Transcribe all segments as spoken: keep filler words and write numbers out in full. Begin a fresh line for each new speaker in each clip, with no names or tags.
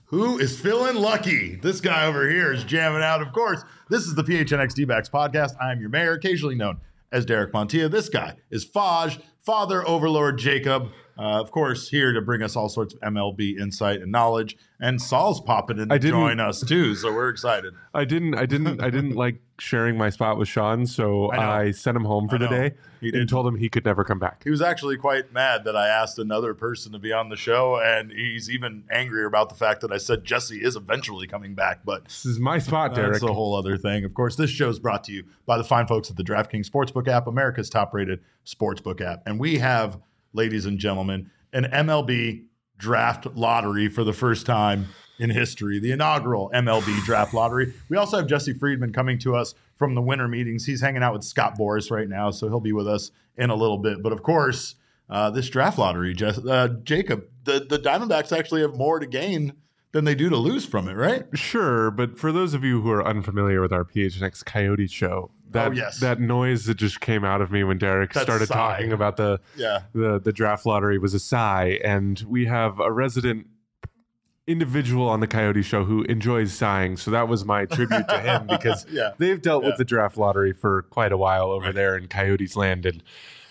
Who is feeling lucky? This guy over here is jamming out. Of course, this is the P H N X D-backs podcast. I am your mayor, occasionally known as Derek Montilla. This guy is Faj, Father Overlord Jacob. Uh, of course, here to bring us all sorts of M L B insight and knowledge. And Saul's popping in to join us too, so we're excited.
I didn't, I didn't, I didn't like sharing my spot with Sean, so I, I sent him home for the day he and told him he could never come back.
He was actually quite mad that I asked another person to be on the show, and he's even angrier about the fact that I said Jesse is eventually coming back. But
this is my spot, Derek.
That's a whole other thing. Of course, this show is brought to you by the fine folks at the DraftKings Sportsbook app, America's top-rated sportsbook app, and we have, ladies and gentlemen, an M L B draft lottery for the first time in history, the inaugural M L B draft lottery. We also have Jesse Friedman coming to us from the winter meetings. He's hanging out with Scott Boras right now, so he'll be with us in a little bit. But of course, uh, this draft lottery, Jess, uh, Jacob, the, the Diamondbacks actually have more to gain than they do to lose from it, right?
Sure, but for those of you who are unfamiliar with our P H N X Coyote show, that
oh, yes.
that noise that just came out of me when Derek that started sigh. talking about the,
yeah.
the the draft lottery was a sigh, and we have a resident individual on the Coyote show who enjoys sighing, so that was my tribute to him because
yeah.
they've dealt
yeah.
with the draft lottery for quite a while over
right.
there in Coyotes land, and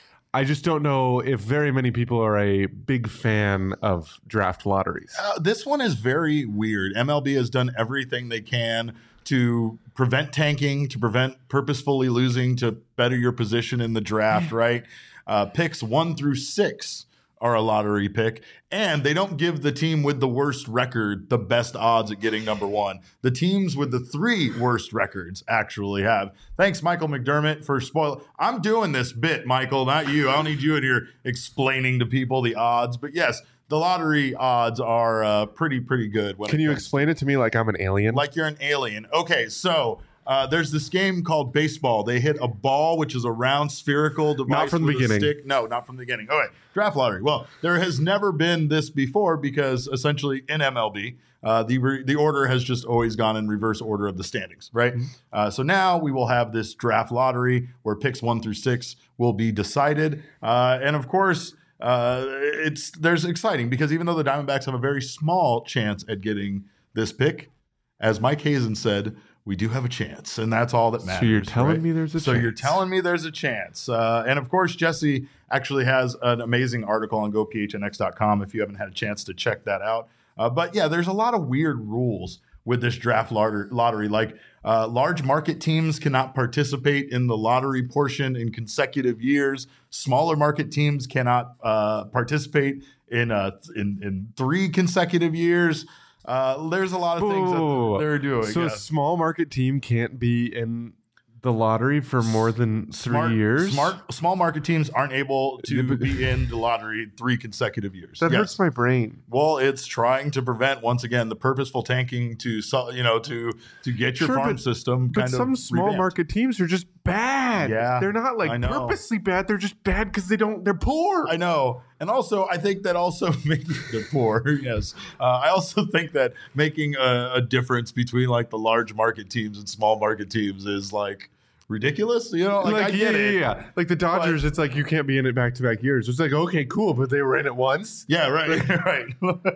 I just don't know if very many people are a big fan of draft lotteries.
Uh, this one is very weird. M L B has done everything they can to prevent tanking, to prevent purposefully losing, to better your position in the draft, right? Uh, picks one through six are a lottery pick, and they don't give the team with the worst record the best odds at getting number one. The teams with the three worst records actually have. Thanks, Michael McDermott, for spoil. I'm doing this bit, Michael, not you. I don't need you in here explaining to people the odds, but yes, the lottery odds are uh, pretty, pretty good. When
Can you explain it to me like I'm an alien?
Like you're an alien. Okay, so uh, there's this game called baseball. They hit a ball, which is a round spherical device.
Not from the
with
beginning.
A stick. No, not from the beginning. Okay, draft lottery. Well, there has never been this before because essentially in M L B, uh, the re- the order has just always gone in reverse order of the standings, right? Mm-hmm. Uh, so now we will have this draft lottery where picks one through six will be decided. Uh, and of course, Uh, it's there's exciting because even though the Diamondbacks have a very small chance at getting this pick, as Mike Hazen said, we do have a chance, and that's all that matters.
So you're telling
right?
me there's a
so
chance.
So you're telling me there's a chance. Uh, and of course, Jesse actually has an amazing article on go P H N X dot com if you haven't had a chance to check that out. Uh, but yeah, there's a lot of weird rules with this draft lottery. Like uh, large market teams cannot participate in the lottery portion in consecutive years. Smaller market teams cannot uh, participate in, uh, in in three consecutive years. Uh, there's a lot of things
Ooh,
that they're doing.
So
yeah.
a small market team can't be in the lottery for more than three
smart,
years?
Smart small market teams aren't able to be in the lottery three consecutive years.
That
yes.
hurts my brain.
Well, it's trying to prevent, once again, the purposeful tanking to you know to to get your
sure,
farm
but,
system.
But
kind
some
of
small
revamped.
market teams are just bad.
Yeah,
they're not like purposely bad. They're just bad because they don't. They're poor.
I know, and also I think that also making they're poor. Yes, uh, I also think that making a, a difference between like the large market teams and small market teams is like ridiculous, you know? Like,
like
I
yeah,
get
yeah,
it.
yeah. Like the Dodgers, but, it's like you can't be in it back to back years. It's like okay, cool, but they were in it once.
Yeah, right, right.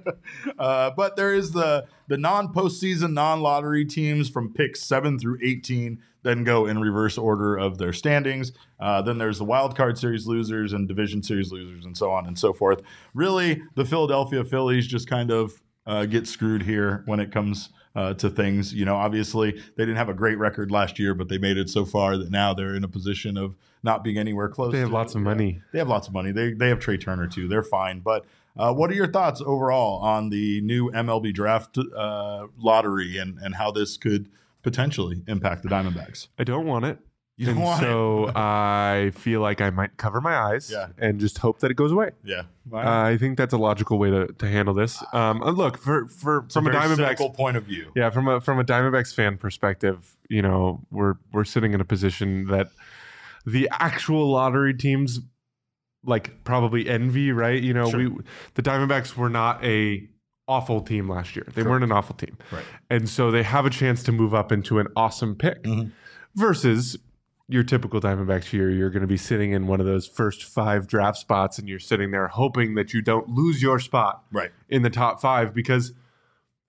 uh, but there is the the non postseason, non lottery teams from picks seven through eighteen. Then go in reverse order of their standings. Uh, then there's the wild card series losers and division series losers, and so on and so forth. Really, the Philadelphia Phillies just kind of uh, get screwed here when it comes Uh, to things. You know, obviously they didn't have a great record last year, but they made it so far that now they're in a position of not being anywhere close.
They have
to,
lots of money.
Yeah, they have lots of money. They they have Trey Turner too. They're fine. But uh, what are your thoughts overall on the new M L B draft uh, lottery and and how this could potentially impact the Diamondbacks?
I don't want it.
You don't
and
want
so
it.
I feel like I might cover my eyes
yeah.
and just hope that it goes away.
Yeah,
wow. uh, I think that's a logical way to, to handle this. Um, look, for, for
it's
from a,
a
Diamondbacks
point of view,
yeah, from a from a Diamondbacks fan perspective, you know, we're we're sitting in a position that the actual lottery teams like probably envy, right? You know,
sure.
we the Diamondbacks were not a awful team last year. They
Correct.
weren't an awful team,
right?
And so they have a chance to move up into an awesome pick,
mm-hmm.
versus your typical Diamondbacks year. You're going to be sitting in one of those first five draft spots, and you're sitting there hoping that you don't lose your spot
right
in the top five, because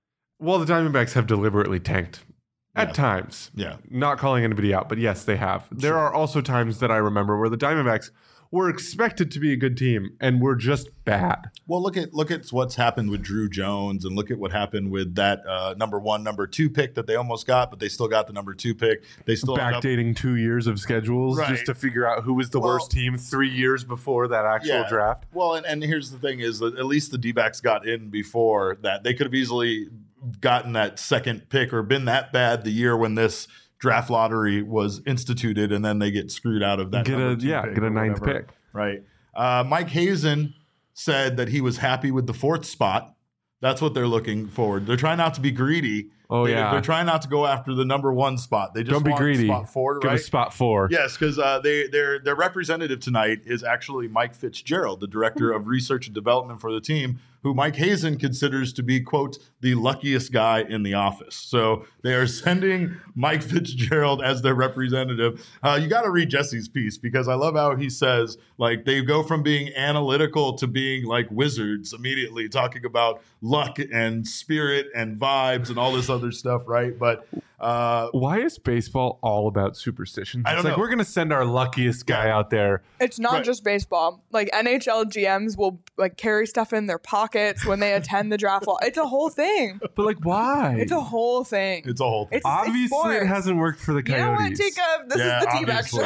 Well, the Diamondbacks have deliberately tanked at
Yeah.
times.
Yeah.
Not calling anybody out, but yes, they have. There are also times that I remember where the Diamondbacks were expected to be a good team and were just bad.
Well, look at look at what's happened with Drew Jones, and look at what happened with that uh, number one, number two pick that they almost got, but they still got the number two pick. They still end up-
Backdating two years of schedules
Right.
just to figure out who was the
Well-
worst team three years before that actual
Yeah.
draft.
Well, and, and here's the thing: is that at least the D-backs got in before that. They could have easily gotten that second pick or been that bad the year when this draft lottery was instituted, and then they get screwed out of that.
Get a
number two
yeah,
pick
get a
or
ninth
whatever.
pick.
Right. Uh, Mike Hazen said that he was happy with the fourth spot. That's what they're looking forward. They're trying not to be greedy.
Oh,
they,
yeah.
They're trying not to go after the number one spot. They just
Don't be
want
greedy.
spot four,
Give
right?
us spot four.
Yes, because uh, they their their representative tonight is actually Mike Fitzgerald, the director of research and development for the team, who Mike Hazen considers to be, quote, the luckiest guy in the office. So they are sending Mike Fitzgerald as their representative. Uh, you got to read Jesse's piece, because I love how he says, like, they go from being analytical to being like wizards immediately, talking about luck and spirit and vibes and all this other stuff, right? But uh,
Why is baseball all about superstitions?
I don't
it's like
know.
we're gonna send our luckiest guy
Yeah.
out there.
It's not
Right.
just baseball. Like N H L G Ms will like carry stuff in their pockets when they attend the draft. Law. It's a whole thing.
But like, why?
It's a whole thing.
it's a whole thing.
It's, it's
Obviously, it
sports.
hasn't worked for the
You know
Coyotes.
what, Jacob? This
Yeah,
is the D-back
obviously.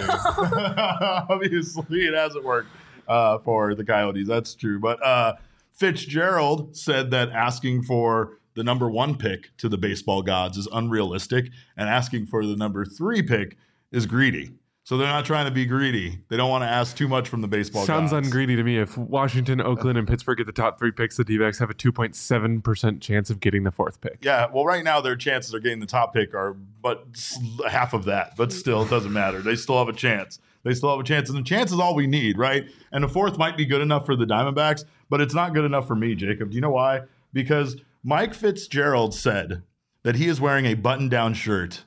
show.
Obviously, it hasn't worked uh, for the Coyotes. That's true. But uh, Fitzgerald said that asking for the number one pick to the baseball gods is unrealistic, and asking for the number three pick is greedy. So they're not trying to be greedy. They don't want to ask too much from the baseball
Sounds
gods.
ungreedy to me. If Washington, Oakland, and Pittsburgh get the top three picks, the D-backs have a two point seven percent chance of getting the fourth pick.
Yeah, well, right now their chances of getting the top pick are but s- half of that. But still, it doesn't matter. They still have a chance. They still have a chance, and the chance is all we need, right? And the fourth might be good enough for the Diamondbacks, but it's not good enough for me, Jacob. Do you know why? Because Mike Fitzgerald said that he is wearing a button-down shirt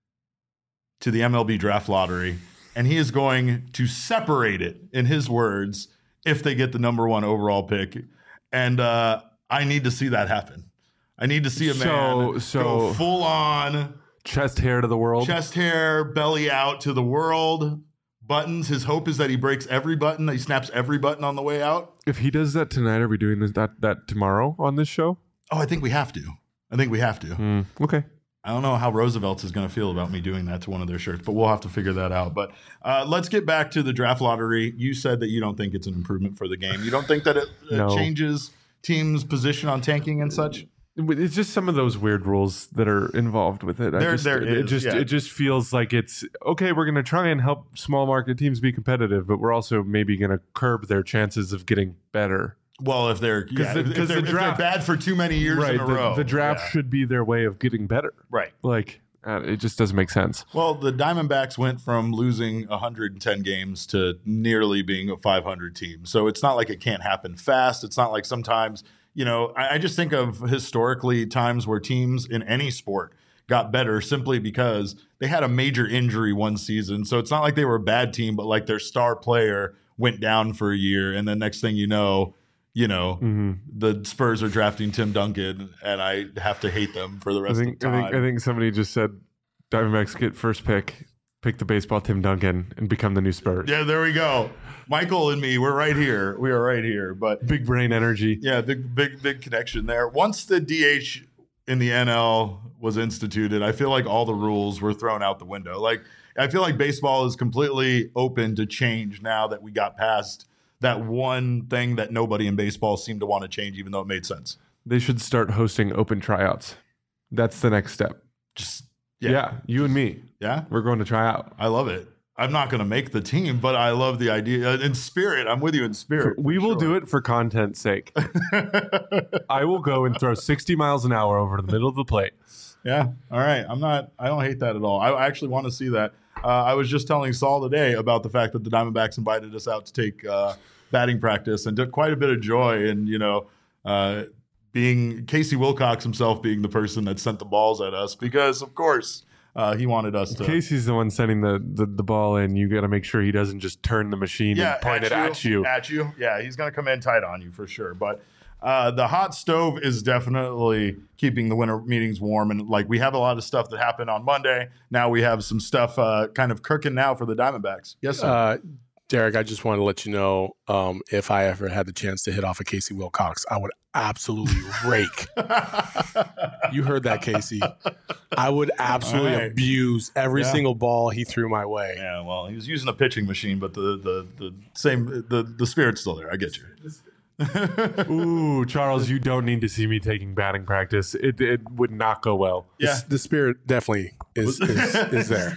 to the M L B draft lottery, and he is going to separate it, in his words, if they get the number one overall pick. And uh, I need to see that happen. I need to see a man
So- so-
go full on,
Chest hair to the world.
chest hair, belly out to the world, buttons. His hope is that he breaks every button. He snaps every button on the way out.
If he does that tonight, are we doing this, that that tomorrow on this show?
Oh, I think we have to. I think we have to.
Hmm, okay.
I don't know how Roosevelt is going to feel about me doing that to one of their shirts, but we'll have to figure that out. But uh, let's get back to the draft lottery. You said that you don't think it's an improvement for the game. You don't think that it, it
No.
changes teams' position on tanking and such?
It's just some of those weird rules that are involved with it. I
There-
just,
there
it
is,
just
yeah.
it just feels like it's okay. We're going to try and help small market teams be competitive, but we're also maybe going to curb their chances of getting better.
Well, if they're, yeah,
the-
if,
'cause
they're,
the
if
draft-
they're bad for too many years
right.
in a
the,
row.
the draft
Yeah.
should be their way of getting better.
Right.
Like uh, it just doesn't make sense.
Well, the Diamondbacks went from losing one hundred ten games to nearly being a five hundred team. So it's not like it can't happen fast. It's not like sometimes, you know, I, I just think of historically times where teams in any sport got better simply because they had a major injury one season. So it's not like they were a bad team, but like their star player went down for a year. And then next thing you know, you know,
Mm-hmm.
the Spurs are drafting Tim Duncan, and I have to hate them for the
I
rest
think
of
I
the
think
time.
I think somebody just said Diamondbacks get first pick, pick the baseball Tim Duncan, and become the new Spurs.
Yeah, there we go. Michael and me, we're right here. We are right here. But
Big brain energy.
yeah, big, big, big connection there. Once the D H in the N L was instituted, I feel like all the rules were thrown out the window. Like, I feel like baseball is completely open to change now that we got past that one thing that nobody in baseball seemed to want to change, even though it made sense.
They should start hosting open tryouts. That's the next step.
Just,
Yeah,
yeah.
you and me.
Yeah.
We're going to try out.
I love it. I'm not going to make the team, but I love the idea. In spirit, I'm with you in spirit.
We will do it for content's sake. I will go and throw sixty miles an hour over the middle of the plate.
Yeah. All right. I'm not, I don't hate that at all. I actually want to see that. Uh, I was just telling Saul today about the fact that the Diamondbacks invited us out to take uh, batting practice and took quite a bit of joy in, you know, uh, being Casey Wilcox himself being the person that sent the balls at us because, of course, uh, he wanted us to.
Casey's the one sending the, the, the ball in. You got to make sure he doesn't just turn the machine
yeah,
and point it at you.
At you. Yeah. He's going to come in tight on you for sure. But uh, the hot stove is definitely keeping the winter meetings warm. And like we have a lot of stuff that happened on Monday. Now we have some stuff uh, kind of cooking now for the Diamondbacks. Yes, sir.
Uh, Derek, I just want to let you know um, if I ever had the chance to hit off a Casey Wilcox, I would absolutely rake. You heard that, Casey. I would absolutely
right.
abuse every
Yeah.
single ball he threw my way.
Yeah, well, he was using a pitching machine, but the the the same the the spirit's still there. I get you.
Ooh, Charles, you don't need to see me taking batting practice. It it would not go well.
Yeah.
The, the spirit definitely is is, is there.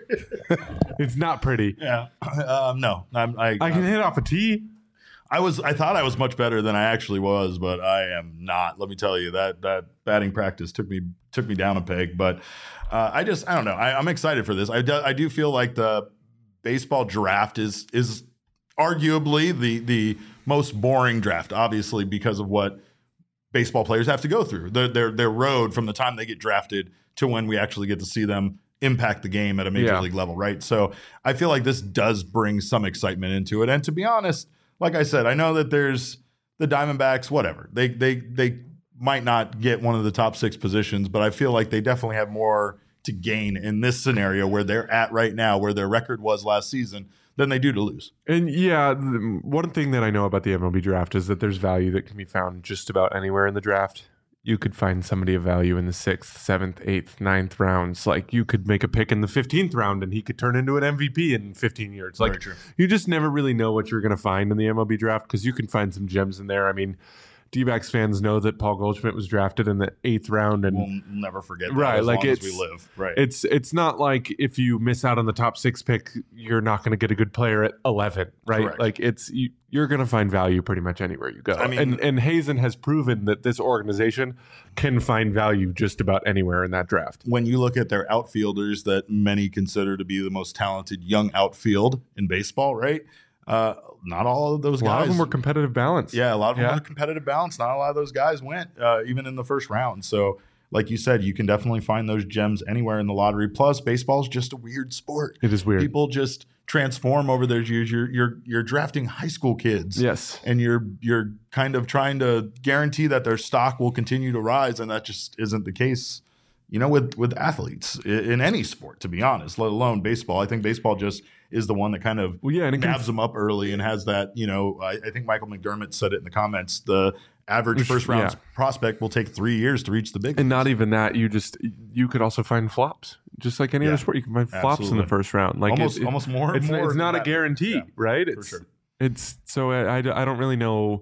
It's not pretty.
Yeah. Um, no, I'm, I
I can hit off a tee.
I was I thought I was much better than I actually was, but I am not. Let me tell you that that batting practice took me took me down a peg. But uh, I just I don't know. I, I'm excited for this. I do, I do feel like the baseball draft is is arguably the the most boring draft, obviously because of what baseball players have to go through. Their their their road from the time they get drafted to when we actually get to see them impact the game at a major
Yeah.
league level, right? So I feel like this does bring some excitement into it. And to be honest, like I said, I know that there's the Diamondbacks, whatever. They they they might not get one of the top six positions, but I feel like they definitely have more to gain in this scenario where they're at right now, where their record was last season, than they do to lose.
And yeah, the, one thing that I know about the M L B draft is that there's value that can be found just about anywhere in the draft. You could find somebody of value in the sixth, seventh, eighth, ninth rounds. Like you could make a pick in the fifteenth round and he could turn into an M V P in fifteen years. Like
Very true.
you just never really know what you're going to find in the M L B draft because you can find some gems in there. I mean, D-backs fans know that Paul Goldschmidt was drafted in the eighth round, and
We'll never forget that
Right,
as
like
long as
it's-
we live. Right.
it's it's not like if you miss out on the top six pick, you're not going to get a good player at eleven, right?
Correct.
Like it's you, you're going to find value pretty much anywhere you go.
I mean-
and and Hazen has proven that this organization can find value just about anywhere in that draft.
when you look at their outfielders that many consider to be the most talented young outfield in baseball, right? Uh, not all of those
A
guys.
lot of them were competitive balance.
Yeah, a lot of them
Yeah.
had a competitive balance. Not a lot of those guys went, uh, even in the first round. So, like you said, you can definitely find those gems anywhere in the lottery. Plus, baseball is just a weird sport.
It is weird.
People just transform over those years. You're you're you're drafting high school kids.
Yes.
And you're you're kind of trying to guarantee that their stock will continue to rise, and that just isn't the case. You know, with with athletes i- in any sport, to be honest, let alone baseball. I think baseball just is the one that kind of
Well, yeah, and it can
nabs them up early and has that. You know, I, I think Michael McDermott said it in the comments. The average first round
Yeah.
prospect will take three years to reach the big.
And
leagues.
not even that, you just you could also find flops, just like any
Yeah,
other sport. You can find flops in
absolutely.
the first round, like
almost
it- it-
almost more.
It's,
more
it's
than
not a
that.
guarantee,
Yeah,
right?
for
It's
sure.
it's so I, I, I don't really know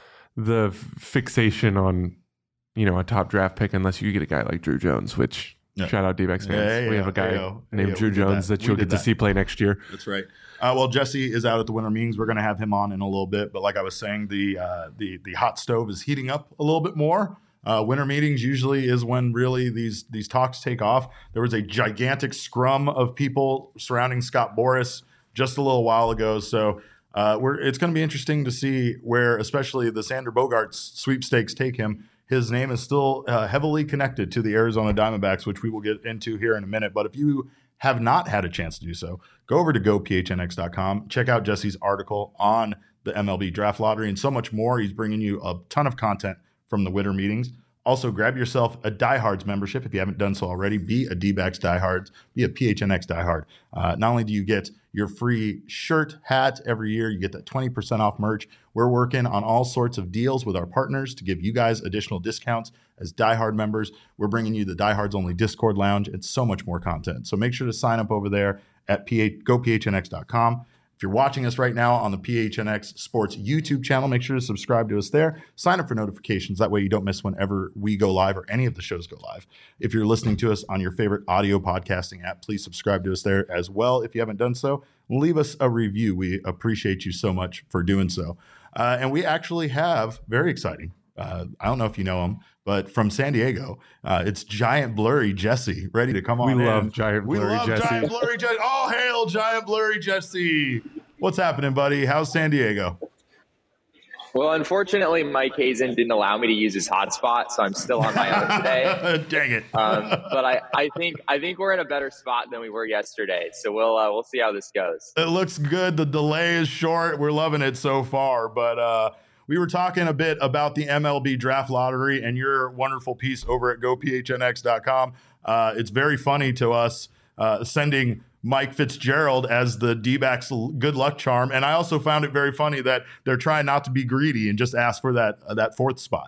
the f- fixation on you know a top draft pick unless you get a guy like Drew Jones, which
Yeah.
shout out D-backs fans.
Yeah, yeah,
we have a
yeah,
guy
yeah,
named
yeah,
Drew
we did
Jones
that.
that,
We
you'll
did
get to
that.
see play next year.
That's right. Uh, well, Jesse is out at the winter meetings. We're going to have him on in a little bit. But like I was saying, the uh, the the hot stove is heating up a little bit more. Uh, winter meetings usually is when really these these talks take off. There was a gigantic scrum of people surrounding Scott Boras just a little while ago. So uh, we're it's going to be interesting to see where, especially the Sander Bogarts sweepstakes take him. His name is still uh, heavily connected to the Arizona Diamondbacks, which we will get into here in a minute. But if you have not had a chance to do so, go over to go p h n x dot com. Check out Jesse's article on the M L B draft lottery and so much more. He's bringing you a ton of content from the winter meetings. Also, grab yourself a Diehards membership if you haven't done so already. Be a D-backs Diehard. Be a P H N X Diehard. Uh, not only do you get your free shirt, hat every year, you get that twenty percent off merch. We're working on all sorts of deals with our partners to give you guys additional discounts as Diehard members. We're bringing you the Diehards Only Discord Lounge and so much more content. So make sure to sign up over there at go p h n x dot com. If you're watching us right now on the P H N X Sports YouTube channel, make sure to subscribe to us there. Sign up for notifications. That way you don't miss whenever we go live or any of the shows go live. If you're listening to us on your favorite audio podcasting app, please subscribe to us there as well. If you haven't done so, leave us a review. We appreciate you so much for doing so. Uh, and we actually have, very exciting, uh, I don't know if you know him, but from San Diego, uh, it's Giant Blurry Jesse, ready to come
We
on in.
love Giant
We
Blurry
love
Jesse.
Giant Blurry Jesse. All hail Giant Blurry Jesse. What's happening, buddy? How's San Diego?
Well, unfortunately, Mike Hazen didn't allow me to use his hotspot, so I'm still on my own today.
Dang it.
Um, but I, I think I think we're in a better spot than we were yesterday. So we'll uh, we'll see how this goes.
It looks good. The delay is short. We're loving it so far. But uh, we were talking a bit about the M L B draft lottery and your wonderful piece over at go p h n x dot com. Uh, it's very funny to us uh, sending Mike Fitzgerald as the D-backs good luck charm. And I also found it very funny that they're trying not to be greedy and just ask for that, uh, that fourth spot.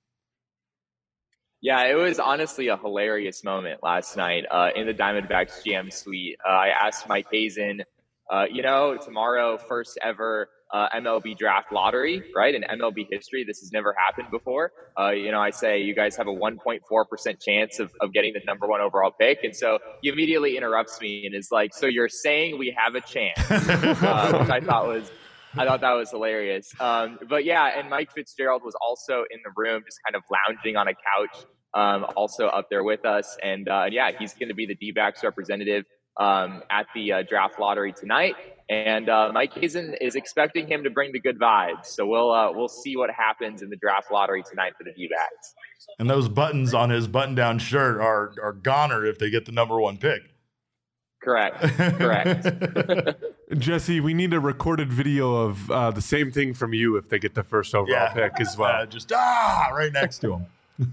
Yeah, it was honestly a hilarious moment last night uh, in the Diamondbacks G M suite. Uh, I asked Mike Hazen, uh, you know, tomorrow, first ever uh, M L B draft lottery, right? In M L B history, this has never happened before. Uh, you know, I say you guys have a one point four percent chance of, of getting the number one overall pick. And so he immediately interrupts me and is like, so you're saying we have a chance, uh, which I thought was I thought that was hilarious. Um, but yeah, and Mike Fitzgerald was also in the room, just kind of lounging on a couch, um, also up there with us. And uh, yeah, he's going to be the D-backs representative um, at the uh, draft lottery tonight. And uh, Mike Hazen is expecting him to bring the good vibes. So we'll uh, we'll see what happens in the draft lottery tonight for the D-backs.
And those buttons on his button-down shirt are are goner if they get the number one pick.
Correct. Correct.
Jesse, we need a recorded video of uh, the same thing from you if they get the first overall
Yeah.
pick as well.
Uh, just ah, right next to him.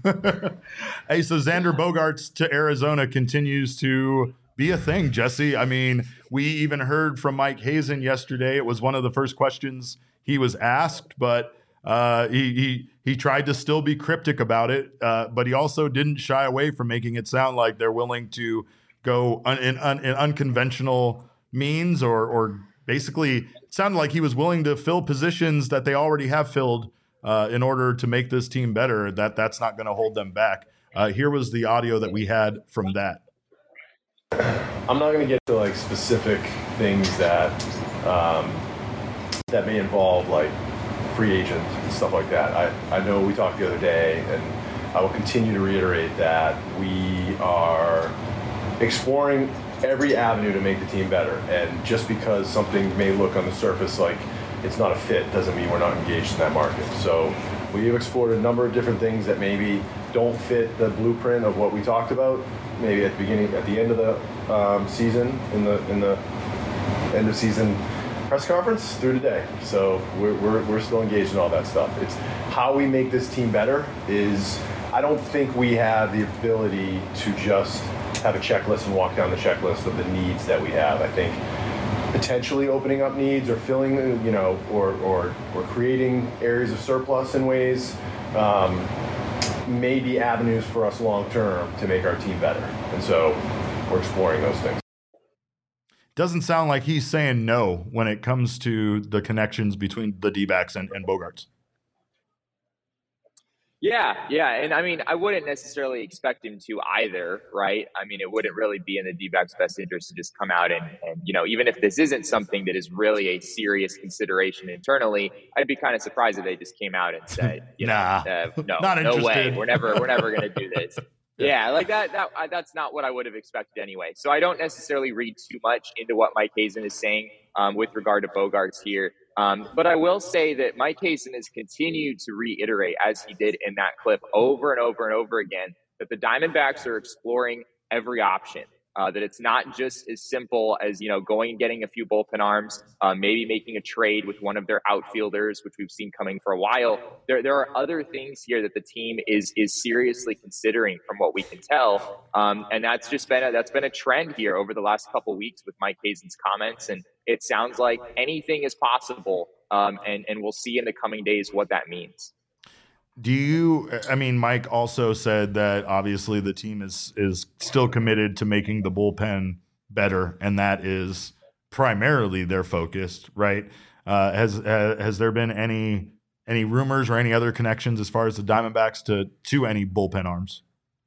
Hey, so Xander Bogaerts to Arizona continues to be a thing, Jesse. I mean, we even heard from Mike Hazen yesterday. It was one of the first questions he was asked, but uh, he, he he tried to still be cryptic about it, uh, but he also didn't shy away from making it sound like they're willing to go un, in, un, in unconventional means, or or basically it sounded like he was willing to fill positions that they already have filled uh, in order to make this team better. That that's not going to hold them back. Uh, here was the audio that we had from that.
I'm not going to get to like specific things that um, that may involve like free agent and stuff like that. I, I know we talked the other day, and I will continue to reiterate that we are exploring every avenue to make the team better. And just because something may look on the surface like it's not a fit doesn't mean we're not engaged in that market. So we have explored a number of different things that maybe don't fit the blueprint of what we talked about, maybe at the beginning, at the end of the um, season, in the in the end of season press conference through today. So we're, we're, we're still engaged in all that stuff. It's how we make this team better is, I don't think we have the ability to just have a checklist and walk down the checklist of the needs that we have. I think potentially opening up needs or filling, you know, or, or, or creating areas of surplus in ways um, may be avenues for us long term to make our team better. And so we're exploring those things.
Doesn't sound like he's saying no when it comes to the connections between the D-backs and, and Bogaerts.
Yeah, yeah. And I mean, I wouldn't necessarily expect him to either, right? I mean, it wouldn't really be in the D-backs' best interest to just come out and, and, you know, even if this isn't something that is really a serious consideration internally, I'd be kind of surprised if they just came out and said, you
nah,
know, uh, no,
not
no way,
interested.
we're never, we're never going to do this. Yeah, like that, that, I- that's not what I would have expected anyway. So I don't necessarily read too much into what Mike Hazen is saying um, with regard to Bogaerts here. Um, but I will say that Mike Hazen has continued to reiterate, as he did in that clip over and over and over again, that the Diamondbacks are exploring every option. Uh, that it's not just as simple as, you know, going and getting a few bullpen arms, uh, maybe making a trade with one of their outfielders, which we've seen coming for a while. There, there are other things here that the team is is seriously considering, from what we can tell, um, and that's just been a, that's been a trend here over the last couple of weeks with Mike Hazen's comments. And it sounds like anything is possible, um, and and we'll see in the coming days what that means.
Do you, I mean, Mike also said that obviously the team is is still committed to making the bullpen better, and that is primarily their focus, right? Uh, has uh, has there been any any rumors or any other connections as far as the Diamondbacks to to any bullpen arms?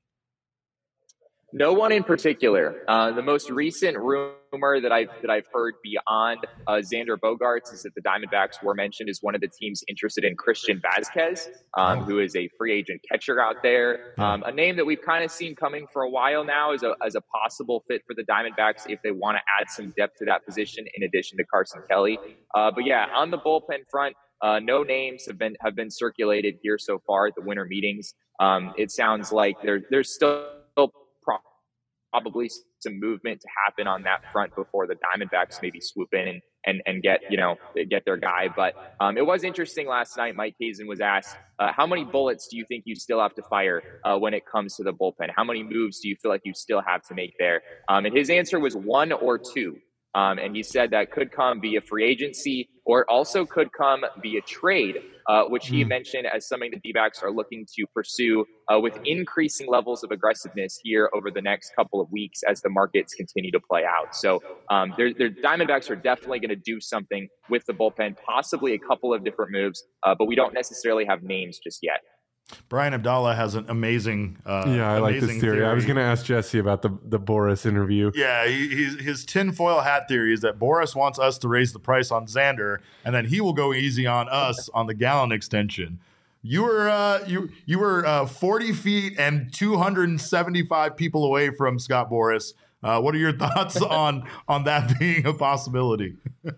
No one in particular. Uh, the most recent rumor that I've that I've heard beyond uh, Xander Bogaerts is that the Diamondbacks were mentioned as one of the teams interested in Christian Vazquez, um,
Oh.
who is a free agent catcher out there. Um, a name that we've kind of seen coming for a while now as a as a possible fit for the Diamondbacks if they want to add some depth to that position in addition to Carson Kelly. Uh, but yeah, on the bullpen front, uh, no names have been have been circulated here so far at the winter meetings. Um, it sounds like there there's still probably some movement to happen on that front before the Diamondbacks maybe swoop in and and and get you know get their guy. But um, it was interesting last night. Mike Hazen was asked, uh, "How many bullets do you think you still have to fire uh, when it comes to the bullpen? How many moves do you feel like you still have to make there?" Um, and his answer was one or two. Um, and he said that could come via free agency or also could come via trade, uh, which he mm. mentioned as something the D-backs are looking to pursue uh, with increasing levels of aggressiveness here over the next couple of weeks as the markets continue to play out. So um, their, their Diamondbacks are definitely going to do something with the bullpen, possibly a couple of different moves, uh, but we don't necessarily have names just yet.
Brian Abdallah has an amazing uh
yeah I
amazing
like this theory. theory I was going to ask Jesse about the the Boras interview.
Yeah, he, he's, his tinfoil hat theory is that Boras wants us to raise the price on Xander and then he will go easy on us on the Gallen extension. You were uh you you were uh forty feet and two hundred seventy-five people away from Scott Boras. Uh what are your thoughts on on that being a possibility?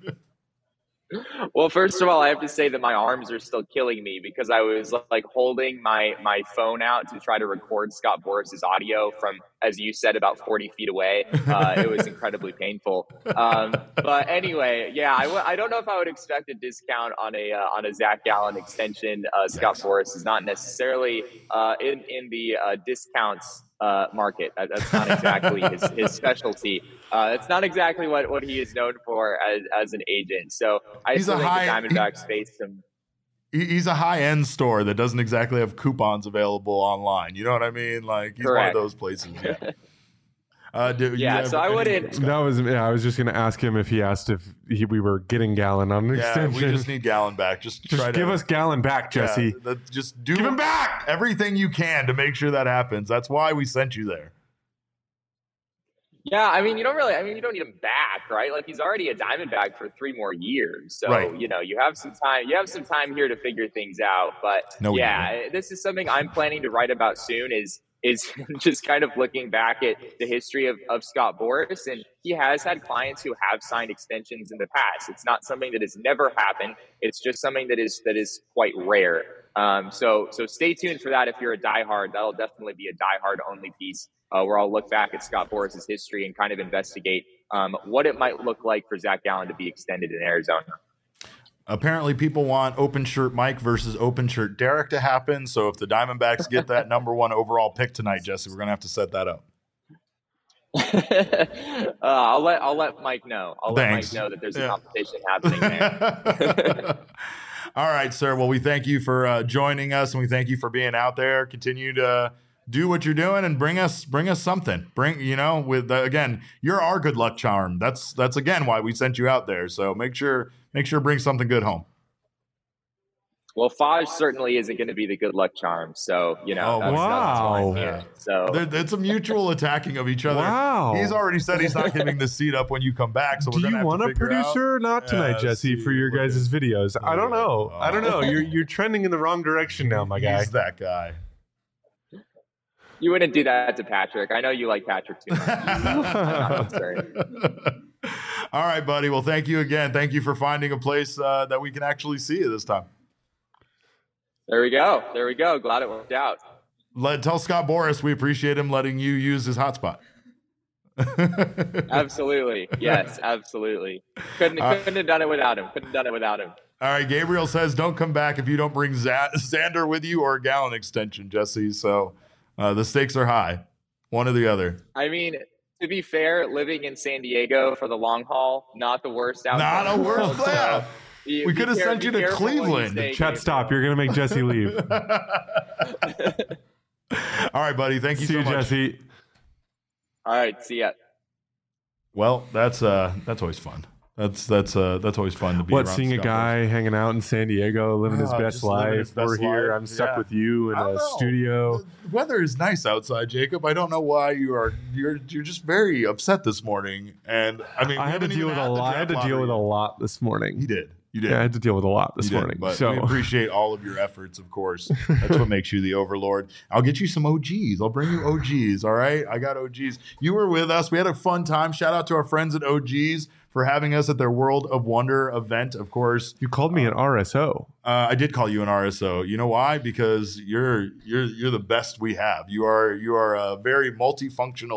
Well, first of all, I have to say that my arms are still killing me because I was like holding my my phone out to try to record Scott Boras's audio from, as you said, about forty feet away. Uh, it was incredibly painful. Um, but anyway, yeah, I, w- I don't know if I would expect a discount on a uh, on a Zach Gallen extension. Uh, Scott Boras is not necessarily uh, in in the uh, discounts uh, market. That, that's not exactly his, his specialty. Uh, that's not exactly what, what he is known for as, as an agent. So I
he's
still think
high,
the Diamondbacks face some.
He's a high-end store that doesn't exactly have coupons available online. You know what I mean? Like he's
Correct.
one of those places. Yeah. Uh, do,
yeah, so I wouldn't.
That was yeah. I was just going to ask him if he asked if he, we were getting Gallen on an
yeah,
extension.
we just need Gallen back. Just,
just
try
give
to,
us Gallen back, Jesse.
Yeah, that, just do
give him back
everything you can to make sure that happens. That's why we sent you there.
Yeah, I mean, you don't really. I mean, you don't need him back, right? Like he's already a Diamondback for three more years, so
right.
you know you have some time. You have some time here to figure things out. But
no,
yeah, this is something I'm planning to write about soon. Is is just kind of looking back at the history of, of Scott Boras, and he has had clients who have signed extensions in the past. It's not something that has never happened. It's just something that is that is quite rare. Um, so so stay tuned for that. If you're a diehard, that'll definitely be a diehard only piece. Uh, where I'll look back at Scott Boras' history and kind of investigate um, what it might look like for Zach Gallen to be extended in Arizona.
Apparently, people want open shirt Mike versus open shirt Derek to happen. So if the Diamondbacks get that number one overall pick tonight, Jesse, we're going to have to set that up.
uh, I'll let I'll let Mike know. I'll
Thanks.
let Mike know that there's a
yeah.
competition happening there.
All right, sir. Well, we thank you for uh, joining us, and we thank you for being out there. Continue to do what you're doing and bring us bring us something. Bring you know with uh, again, you're our good luck charm. That's that's again why we sent you out there. So make sure make sure bring something good home.
Well, Faj certainly isn't going to be the good luck charm. So you know,
oh,
that's,
wow.
that's yeah. So
there, it's a mutual attacking of each other.
Wow.
He's already said he's not giving the seat up when you come back. So
do
we're
you want a producer or not tonight,
yeah,
Jesse,
see,
for your guys' videos? I don't know.
Oh.
I don't know. You're you're trending in the wrong direction now, my guy.
He's that guy.
You wouldn't do that to Patrick. I know you like Patrick too much. I'm not concerned.
All right, buddy. Well, thank you again. Thank you for finding a place uh, that we can actually see you this time.
There we go. There we go. Glad it worked out.
Let tell Scott Boras we appreciate him letting you use his hotspot.
Absolutely. Yes, absolutely. Couldn't
Uh,
couldn't have done it without him. Couldn't have done it without him.
All right, Gabriel says don't come back if you don't bring Z- Xander with you or a Gallen extension, Jesse. So uh, the stakes are high, one or the other.
I mean, to be fair, living in San Diego for the long haul, not the worst outcome.
Not a worst
So,
plan.
be-
We
be
could have
care-
sent
be
you to
careful what you
Cleveland.
say,
Chat,
Gabriel.
stop. You're going to make Jesse leave.
All right, buddy. Thank you
See
so
you,
much.
Jesse.
All right. See ya.
Well, that's uh, that's always fun. That's that's uh, that's always fun to be.
What,
around
seeing a
Scott
guy hanging out in San Diego, living his
Oh,
best
just living his
life?
best
We're here.
life.
I'm stuck
Yeah.
with you in
I don't
a
know.
studio.
The weather is nice outside, Jacob. I don't know why you are. You're you're just very upset this morning, and I mean,
I
we
had to
haven't
deal
even
with a
had the
lot. I had to
draft
deal with a
lottery
lot this morning.
yet. You did. You did.
Yeah, I had to deal with a lot this
You did,
morning.
but
so
we appreciate all of your efforts, of course. That's what makes you the overlord. I'll get you some O Gs. I'll bring you O Gs, all right? I got O Gs. You were with us. We had a fun time. Shout out to our friends at O Gs for having us at their World of Wonder event, of course.
you called me an R S O.
Uh, I did call you an R S O. You know why? Because you're you're you're the best we have. You are you are a very multifunctional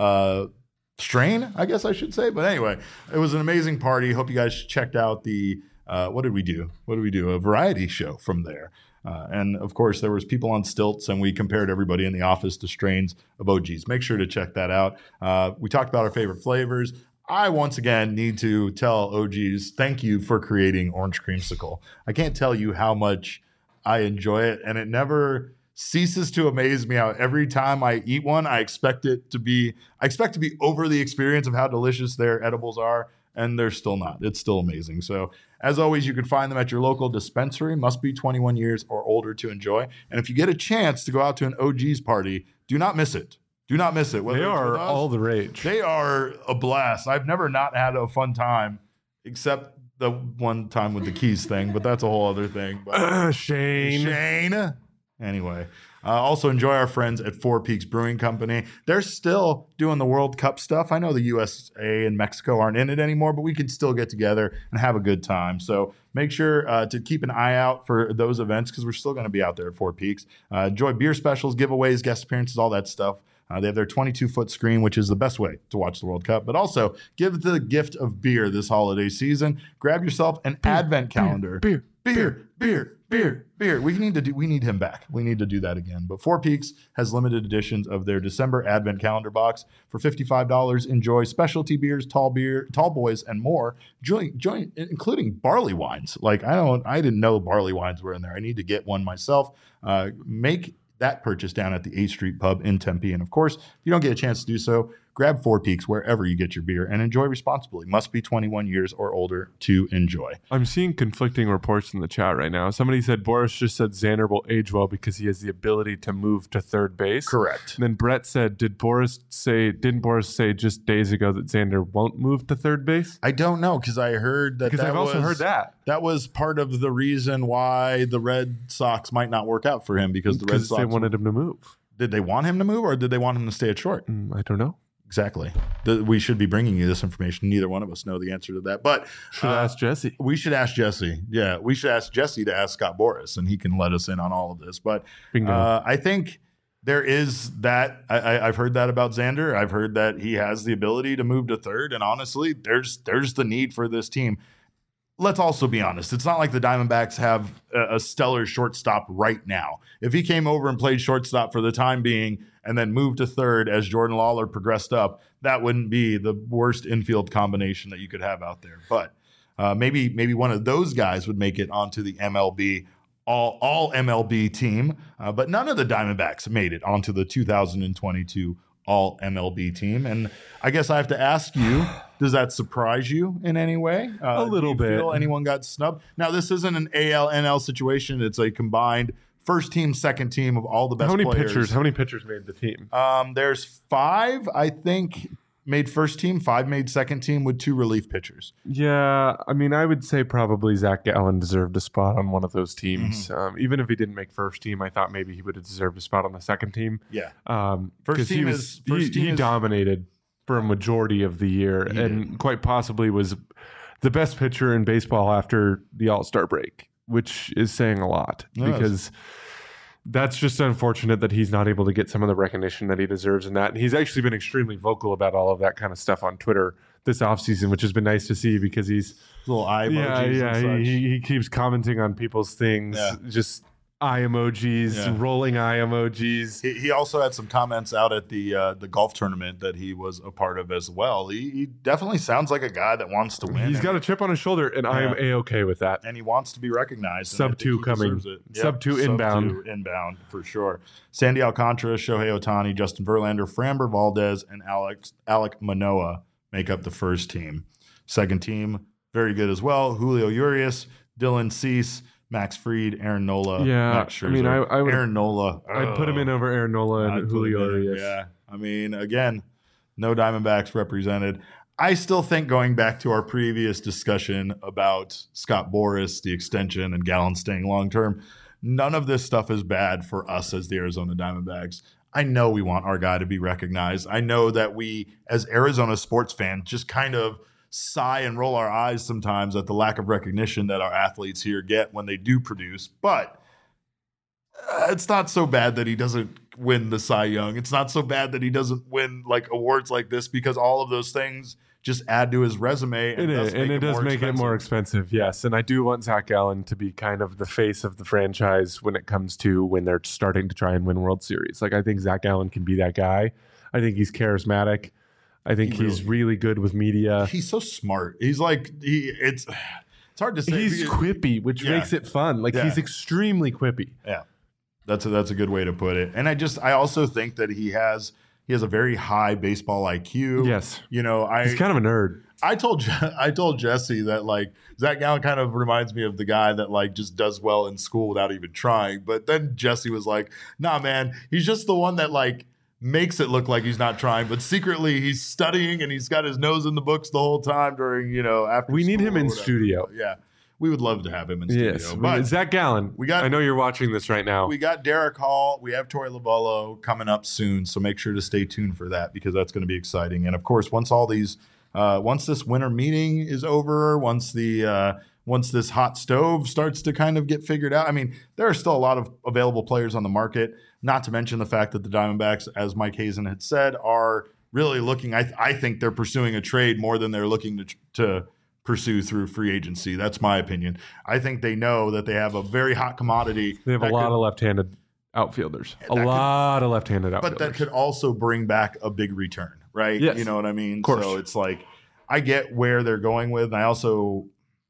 uh, strain, I guess I should say. But anyway, it was an amazing party. Hope you guys checked out the, uh, what did we do? What did we do? A variety show from there. Uh, and of course, there was people on stilts, and we compared everybody in the office to strains of O Gs. Make sure to check that out. Uh, we talked about our favorite flavors. I once again need to tell O Gs, thank you for creating Orange Creamsicle. I can't tell you how much I enjoy it, and it never ceases to amaze me how every time I eat one, I expect it to be, I expect to be over the experience of how delicious their edibles are, and they're still not. It's still amazing. So as always, you can find them at your local dispensary. Must be twenty-one years or older to enjoy. And if you get a chance to go out to an O G's party, do not miss it. Do not miss it. Whether
They
it's
are
with us,
all the rage.
They are a blast. I've never not had a fun time, except the one time with the keys thing, but that's a whole other thing. But
Uh, Shane.
Shane. Anyway, uh, also enjoy our friends at Four Peaks Brewing Company. They're still doing the World Cup stuff. I know the U S A and Mexico aren't in it anymore, but we can still get together and have a good time. So make sure uh, to keep an eye out for those events because we're still going to be out there at Four Peaks. Uh, enjoy beer specials, giveaways, guest appearances, all that stuff. Uh, they have their twenty-two foot screen, which is the best way to watch the World Cup. But also, give the gift of beer this holiday season. Grab yourself an advent calendar.
Beer,
beer, beer, beer, beer. We need to do. We need him back. We need to do that again. But Four Peaks has limited editions of their December advent calendar box for fifty-five dollars. Enjoy specialty beers, tall beer, tall boys, and more. Join, join, including barley wines. Like I don't, I didn't know barley wines were in there. I need to get one myself. Uh, make that purchase down at the eighth Street Pub in Tempe. And of course, if you don't get a chance to do so, grab Four Peaks wherever you get your beer and enjoy responsibly. Must be twenty-one years or older to enjoy.
I'm seeing conflicting reports in the chat right now. Somebody said Boris just said Xander will age well because he has the ability to move to third base.
Correct.
And then Brett said, "Did Boris say? Didn't Boris say just days ago that Xander won't move to third base?"
I don't know because I heard that.
Because
that
I've also
was,
heard that.
That was part of the reason why the Red Sox might not work out for him because the Red
Because
Sox
they wanted him to move.
Did they want him to move or did they want him to stay at short?
Mm, I don't know.
Exactly. The, we should be bringing you this information. Neither one of us know the answer to that, but
Should
uh,
ask Jesse.
we should ask Jesse. Yeah, we should ask Jesse to ask Scott Boras, and he can let us in on all of this. But
Bingo.
uh, I think there is that. I, I, I've heard that about Xander. I've heard that he has the ability to move to third, and honestly, there's there's the need for this team. Let's also be honest. It's not like the Diamondbacks have a, a stellar shortstop right now. If he came over and played shortstop for the time being and then moved to third as Jordan Lawler progressed up, that wouldn't be the worst infield combination that you could have out there. But uh, maybe maybe one of those guys would make it onto the M L B all all M L B team. Uh, but none of the Diamondbacks made it onto the two thousand twenty-two all M L B team. And I guess I have to ask you, does that surprise you in any way? Uh,
A little
do you
bit.
feel anyone got snubbed? Now, this isn't an A L N L situation. It's a combined first team, second team of all the best
How many
players.
pitchers? How many pitchers made the team?
Um, there's five, I think, made first team, five made second team with two relief pitchers.
Yeah, I mean, I would say probably Zach Gallen deserved a spot on one of those teams.
Mm-hmm.
Um, even if he didn't make first team, I thought maybe he would have deserved a spot on the second team.
Yeah.
Um,
First
'cause he
team
was,
is- first
he,
team
he
is-
dominated for a majority of the year,
He
and quite possibly was the best pitcher in baseball after the All Star break, which is saying a lot
It is.
because. That's just unfortunate that he's not able to get some of the recognition that he deserves in that. And he's actually been extremely vocal about all of that kind of stuff on Twitter this offseason, which has been nice to see because he's
Little eye emojis
yeah,
and
yeah.
such.
He, he keeps commenting on people's things,
Yeah.
just eye emojis,
Yeah.
rolling eye emojis.
He, he also had some comments out at the uh, the golf tournament that he was a part of as well. He, he definitely sounds like a guy that wants to win.
He's
and,
got a chip on his shoulder, and I am
Yeah.
a-okay with that.
and he wants to be recognized. and
Sub
I think
two
he
coming.
deserves it.
Sub two inbound.
Sub two inbound for sure. Sandy Alcantara, Shohei Ohtani, Justin Verlander, Framber Valdez, and Alex Alec Manoah make up the first team. Second team, very good as well. Julio Urias, Dylan Cease, Max Fried, Aaron Nola.
Yeah,
Max
I mean,
Scherzer.
I- I would-
Aaron Nola.
I'd put him in
Ugh.
over Aaron Nola
I'd
and
put him
Julio
in,
Urias.
Yeah. I mean, again, no Diamondbacks represented. I still think going back to our previous discussion about Scott Boras, the extension, and Gallen staying long term, none of this stuff is bad for us as the Arizona Diamondbacks. I know we want our guy to be recognized. I know that we, as Arizona sports fans, just kind of sigh and roll our eyes sometimes at the lack of recognition that our athletes here get when they do produce. But uh, it's not so bad that he doesn't win the Cy Young. It's not so bad that he doesn't win like awards like this because all of those things just add to his resume.
And it is, and it does make it more expensive. Yes, and I do want Zach Gallen to be kind of the face of the franchise when it comes to when they're starting to try and win World Series. Like I think Zach Gallen can be that guy. I think he's charismatic. I think
He
he's
really-
really good with media.
He's so smart. He's like he. It's it's hard to say.
He's
because-
quippy, which
Yeah.
makes it fun. Like
Yeah.
he's extremely quippy.
Yeah, that's a, that's a good way to put it. And I just I also think that he has he has a very high baseball I Q.
Yes.
You know, I
He's kind of a nerd.
I told Je- I told Jesse that like Zach Gallen kind of reminds me of the guy that like just does well in school without even trying. But then Jesse was like, "Nah, man, he's just the one that like makes it look like he's not trying, but secretly he's studying and he's got his nose in the books the whole time during you know after."
We need
school
him
or
in
whatever.
studio.
Yeah, we would love to have him in studio.
Yes,
but
Zach Gallen.
we got-
I know you're watching this right now.
we got Derek Hall. We have Tori Lavallo coming up soon, so make sure to stay tuned for that because that's going to be exciting. And of course, once all these, uh, once this winter meeting is over, once the uh, once this hot stove starts to kind of get figured out, I mean, there are still a lot of available players on the market. Not to mention the fact that the Diamondbacks, as Mike Hazen had said, are really looking. I I think they're pursuing a trade more than they're looking to to. pursue through free agency. That's my opinion. I think they know that they have a very hot commodity.
They have a
that
lot
could-
of left-handed outfielders. A
That could-
lot of left-handed outfielders.
but that could also bring back a big return, right?
Yes.
You know what I mean?
course.
So it's like I get where they're going with, and I also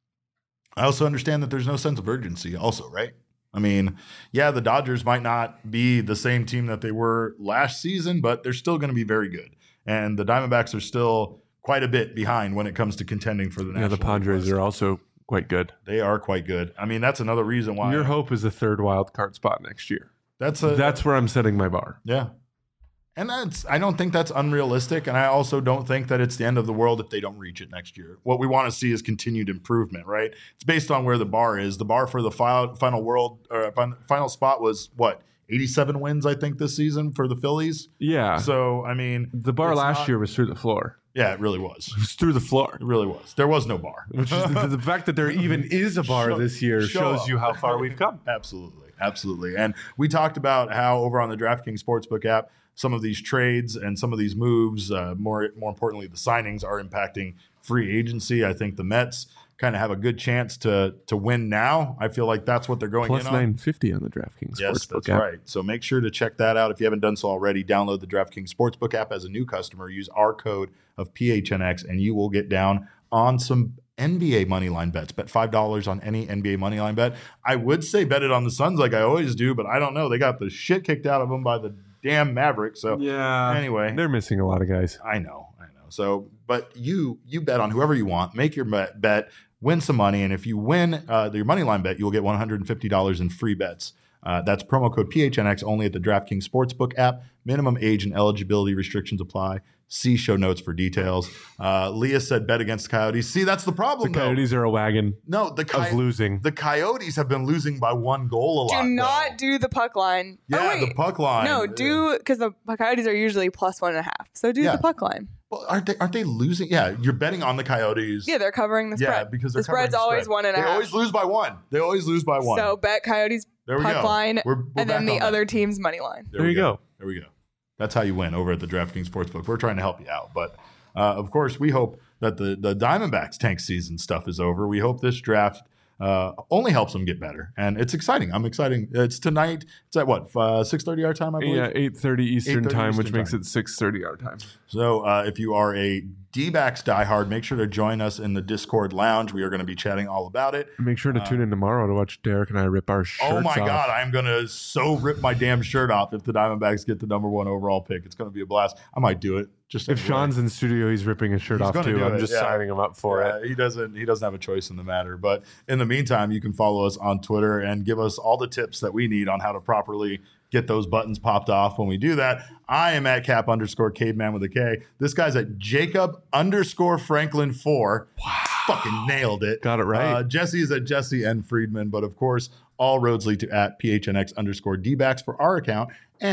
I also understand that there's no sense of urgency also, right? I mean, yeah, the Dodgers might not be the same team that they were last season, but they're still going to be very good. And the Diamondbacks are still quite a bit behind when it comes to contending for the
yeah,
National
the Padres
League West.
are also quite good.
They are quite good. I mean, that's another reason why
Your hope is a third wild card spot next year.
that's a
That's where I'm setting my bar.
Yeah. And that's I don't think that's unrealistic. And I also don't think that it's the end of the world if they don't reach it next year. What we want to see is continued improvement, right? It's based on where the bar is. The bar for the final, final world or fin- final spot was what? eighty-seven wins, I think, this season for the Phillies.
Yeah.
So, I mean,
the bar
it's
last
not-
year was through the floor.
Yeah, it really was.
It was through the floor.
It really was. There was no bar.
Which is the, the fact that there even is a bar
Show-
this year
show
shows
up.
you how far we've come.
Absolutely. Absolutely. And we talked about how over on the DraftKings Sportsbook app, some of these trades and some of these moves, uh, more more importantly, the signings are impacting free agency. I think the Mets kind of have a good chance to to win now. I feel like that's what they're going
Plus
in on.
nine fifty on the DraftKings
Yes,
Sportsbook
that's
app.
right. So make sure to check that out. If you haven't done so already, download the DraftKings Sportsbook app as a new customer. Use our code of P H N X, and you will get down on some N B A moneyline bets. Bet five dollars on any N B A moneyline bet. I would say bet it on the Suns like I always do, but I don't know. They got the shit kicked out of them by the damn Mavericks. So
Yeah.
anyway,
They're missing a lot of guys.
I know, I know. So, but you you bet on whoever you want. Make your bet, bet win some money, and if you win uh, your money line bet, you'll get one hundred fifty dollars in free bets. Uh, that's promo code P H N X only at the DraftKings Sportsbook app. Minimum age and eligibility restrictions apply. See show notes for details. Uh, Leah said bet against the Coyotes. See, that's the
The
problem. though.
Coyotes are a wagon
No, the
of
Coy-
losing.
the Coyotes have been losing by one goal a lot.
Do not
though.
do the puck line.
Yeah,
oh, wait.
the puck line.
No, do because the Coyotes are usually plus one and a half. So do
Yeah.
the puck line.
Well, aren't they? Aren't they losing? Yeah, you're betting on the Coyotes.
Yeah, they're covering the
Yeah,
spread.
because they're
the spread's
covering the
always
spread.
one and a
They
half.
always lose by one. They always lose by one.
So bet Coyotes
there we
puck
go.
line,
We're- we're
and then
back
the
on that.
other team's money line.
There
we
you go.
There we go. That's how you win over at the DraftKings Sportsbook. We're trying to help you out, but uh, of course, we hope that the the Diamondbacks tank season stuff is over. We hope this draft uh, only helps them get better, and it's exciting. I'm excited. It's tonight. It's at what uh, six thirty our time, I believe.
Yeah, eight thirty Eastern
eight thirty
time,
Eastern
which makes
time.
it six thirty our time.
So uh, if you are a D-backs diehard, make sure to join us in the Discord lounge. We are going to be chatting all about it.
Make sure to tune in tomorrow to watch Derek and I rip our shirts
Uh, Oh my
off.
God, I'm going to so rip my damn shirt off if the Diamondbacks get the number one overall pick. It's going to be a blast. I might do it. Just
If
anyway.
Sean's in studio, he's ripping his shirt
He's
off
gonna
too.
do
I'm
it,
just
yeah.
signing him up for
Yeah,
it.
he doesn't he doesn't have a choice in the matter. But in the meantime, you can follow us on Twitter and give us all the tips that we need on how to properly get those buttons popped off when we do that. I am at cap underscore caveman with a K. This guy's at Jacob underscore Franklin four. Wow. Fucking nailed it.
Got it right.
Uh, Jesse is at Jesse N. Friedman. But of course, all roads lead to at P H N X underscore D-backs for our account. And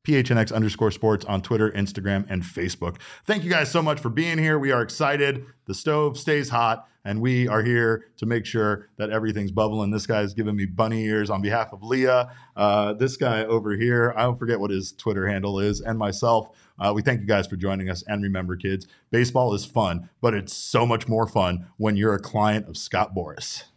P H N X underscore sports on Twitter, Instagram, and Facebook. Thank you guys so much for being here. We are excited. The stove stays hot, and we are here to make sure that everything's bubbling. This guy's giving me bunny ears on behalf of Leah. Uh, this guy over here, I don't forget what his Twitter handle is, and myself. Uh, we thank you guys for joining us. And remember, kids, baseball is fun, but it's so much more fun when you're a client of Scott Boras.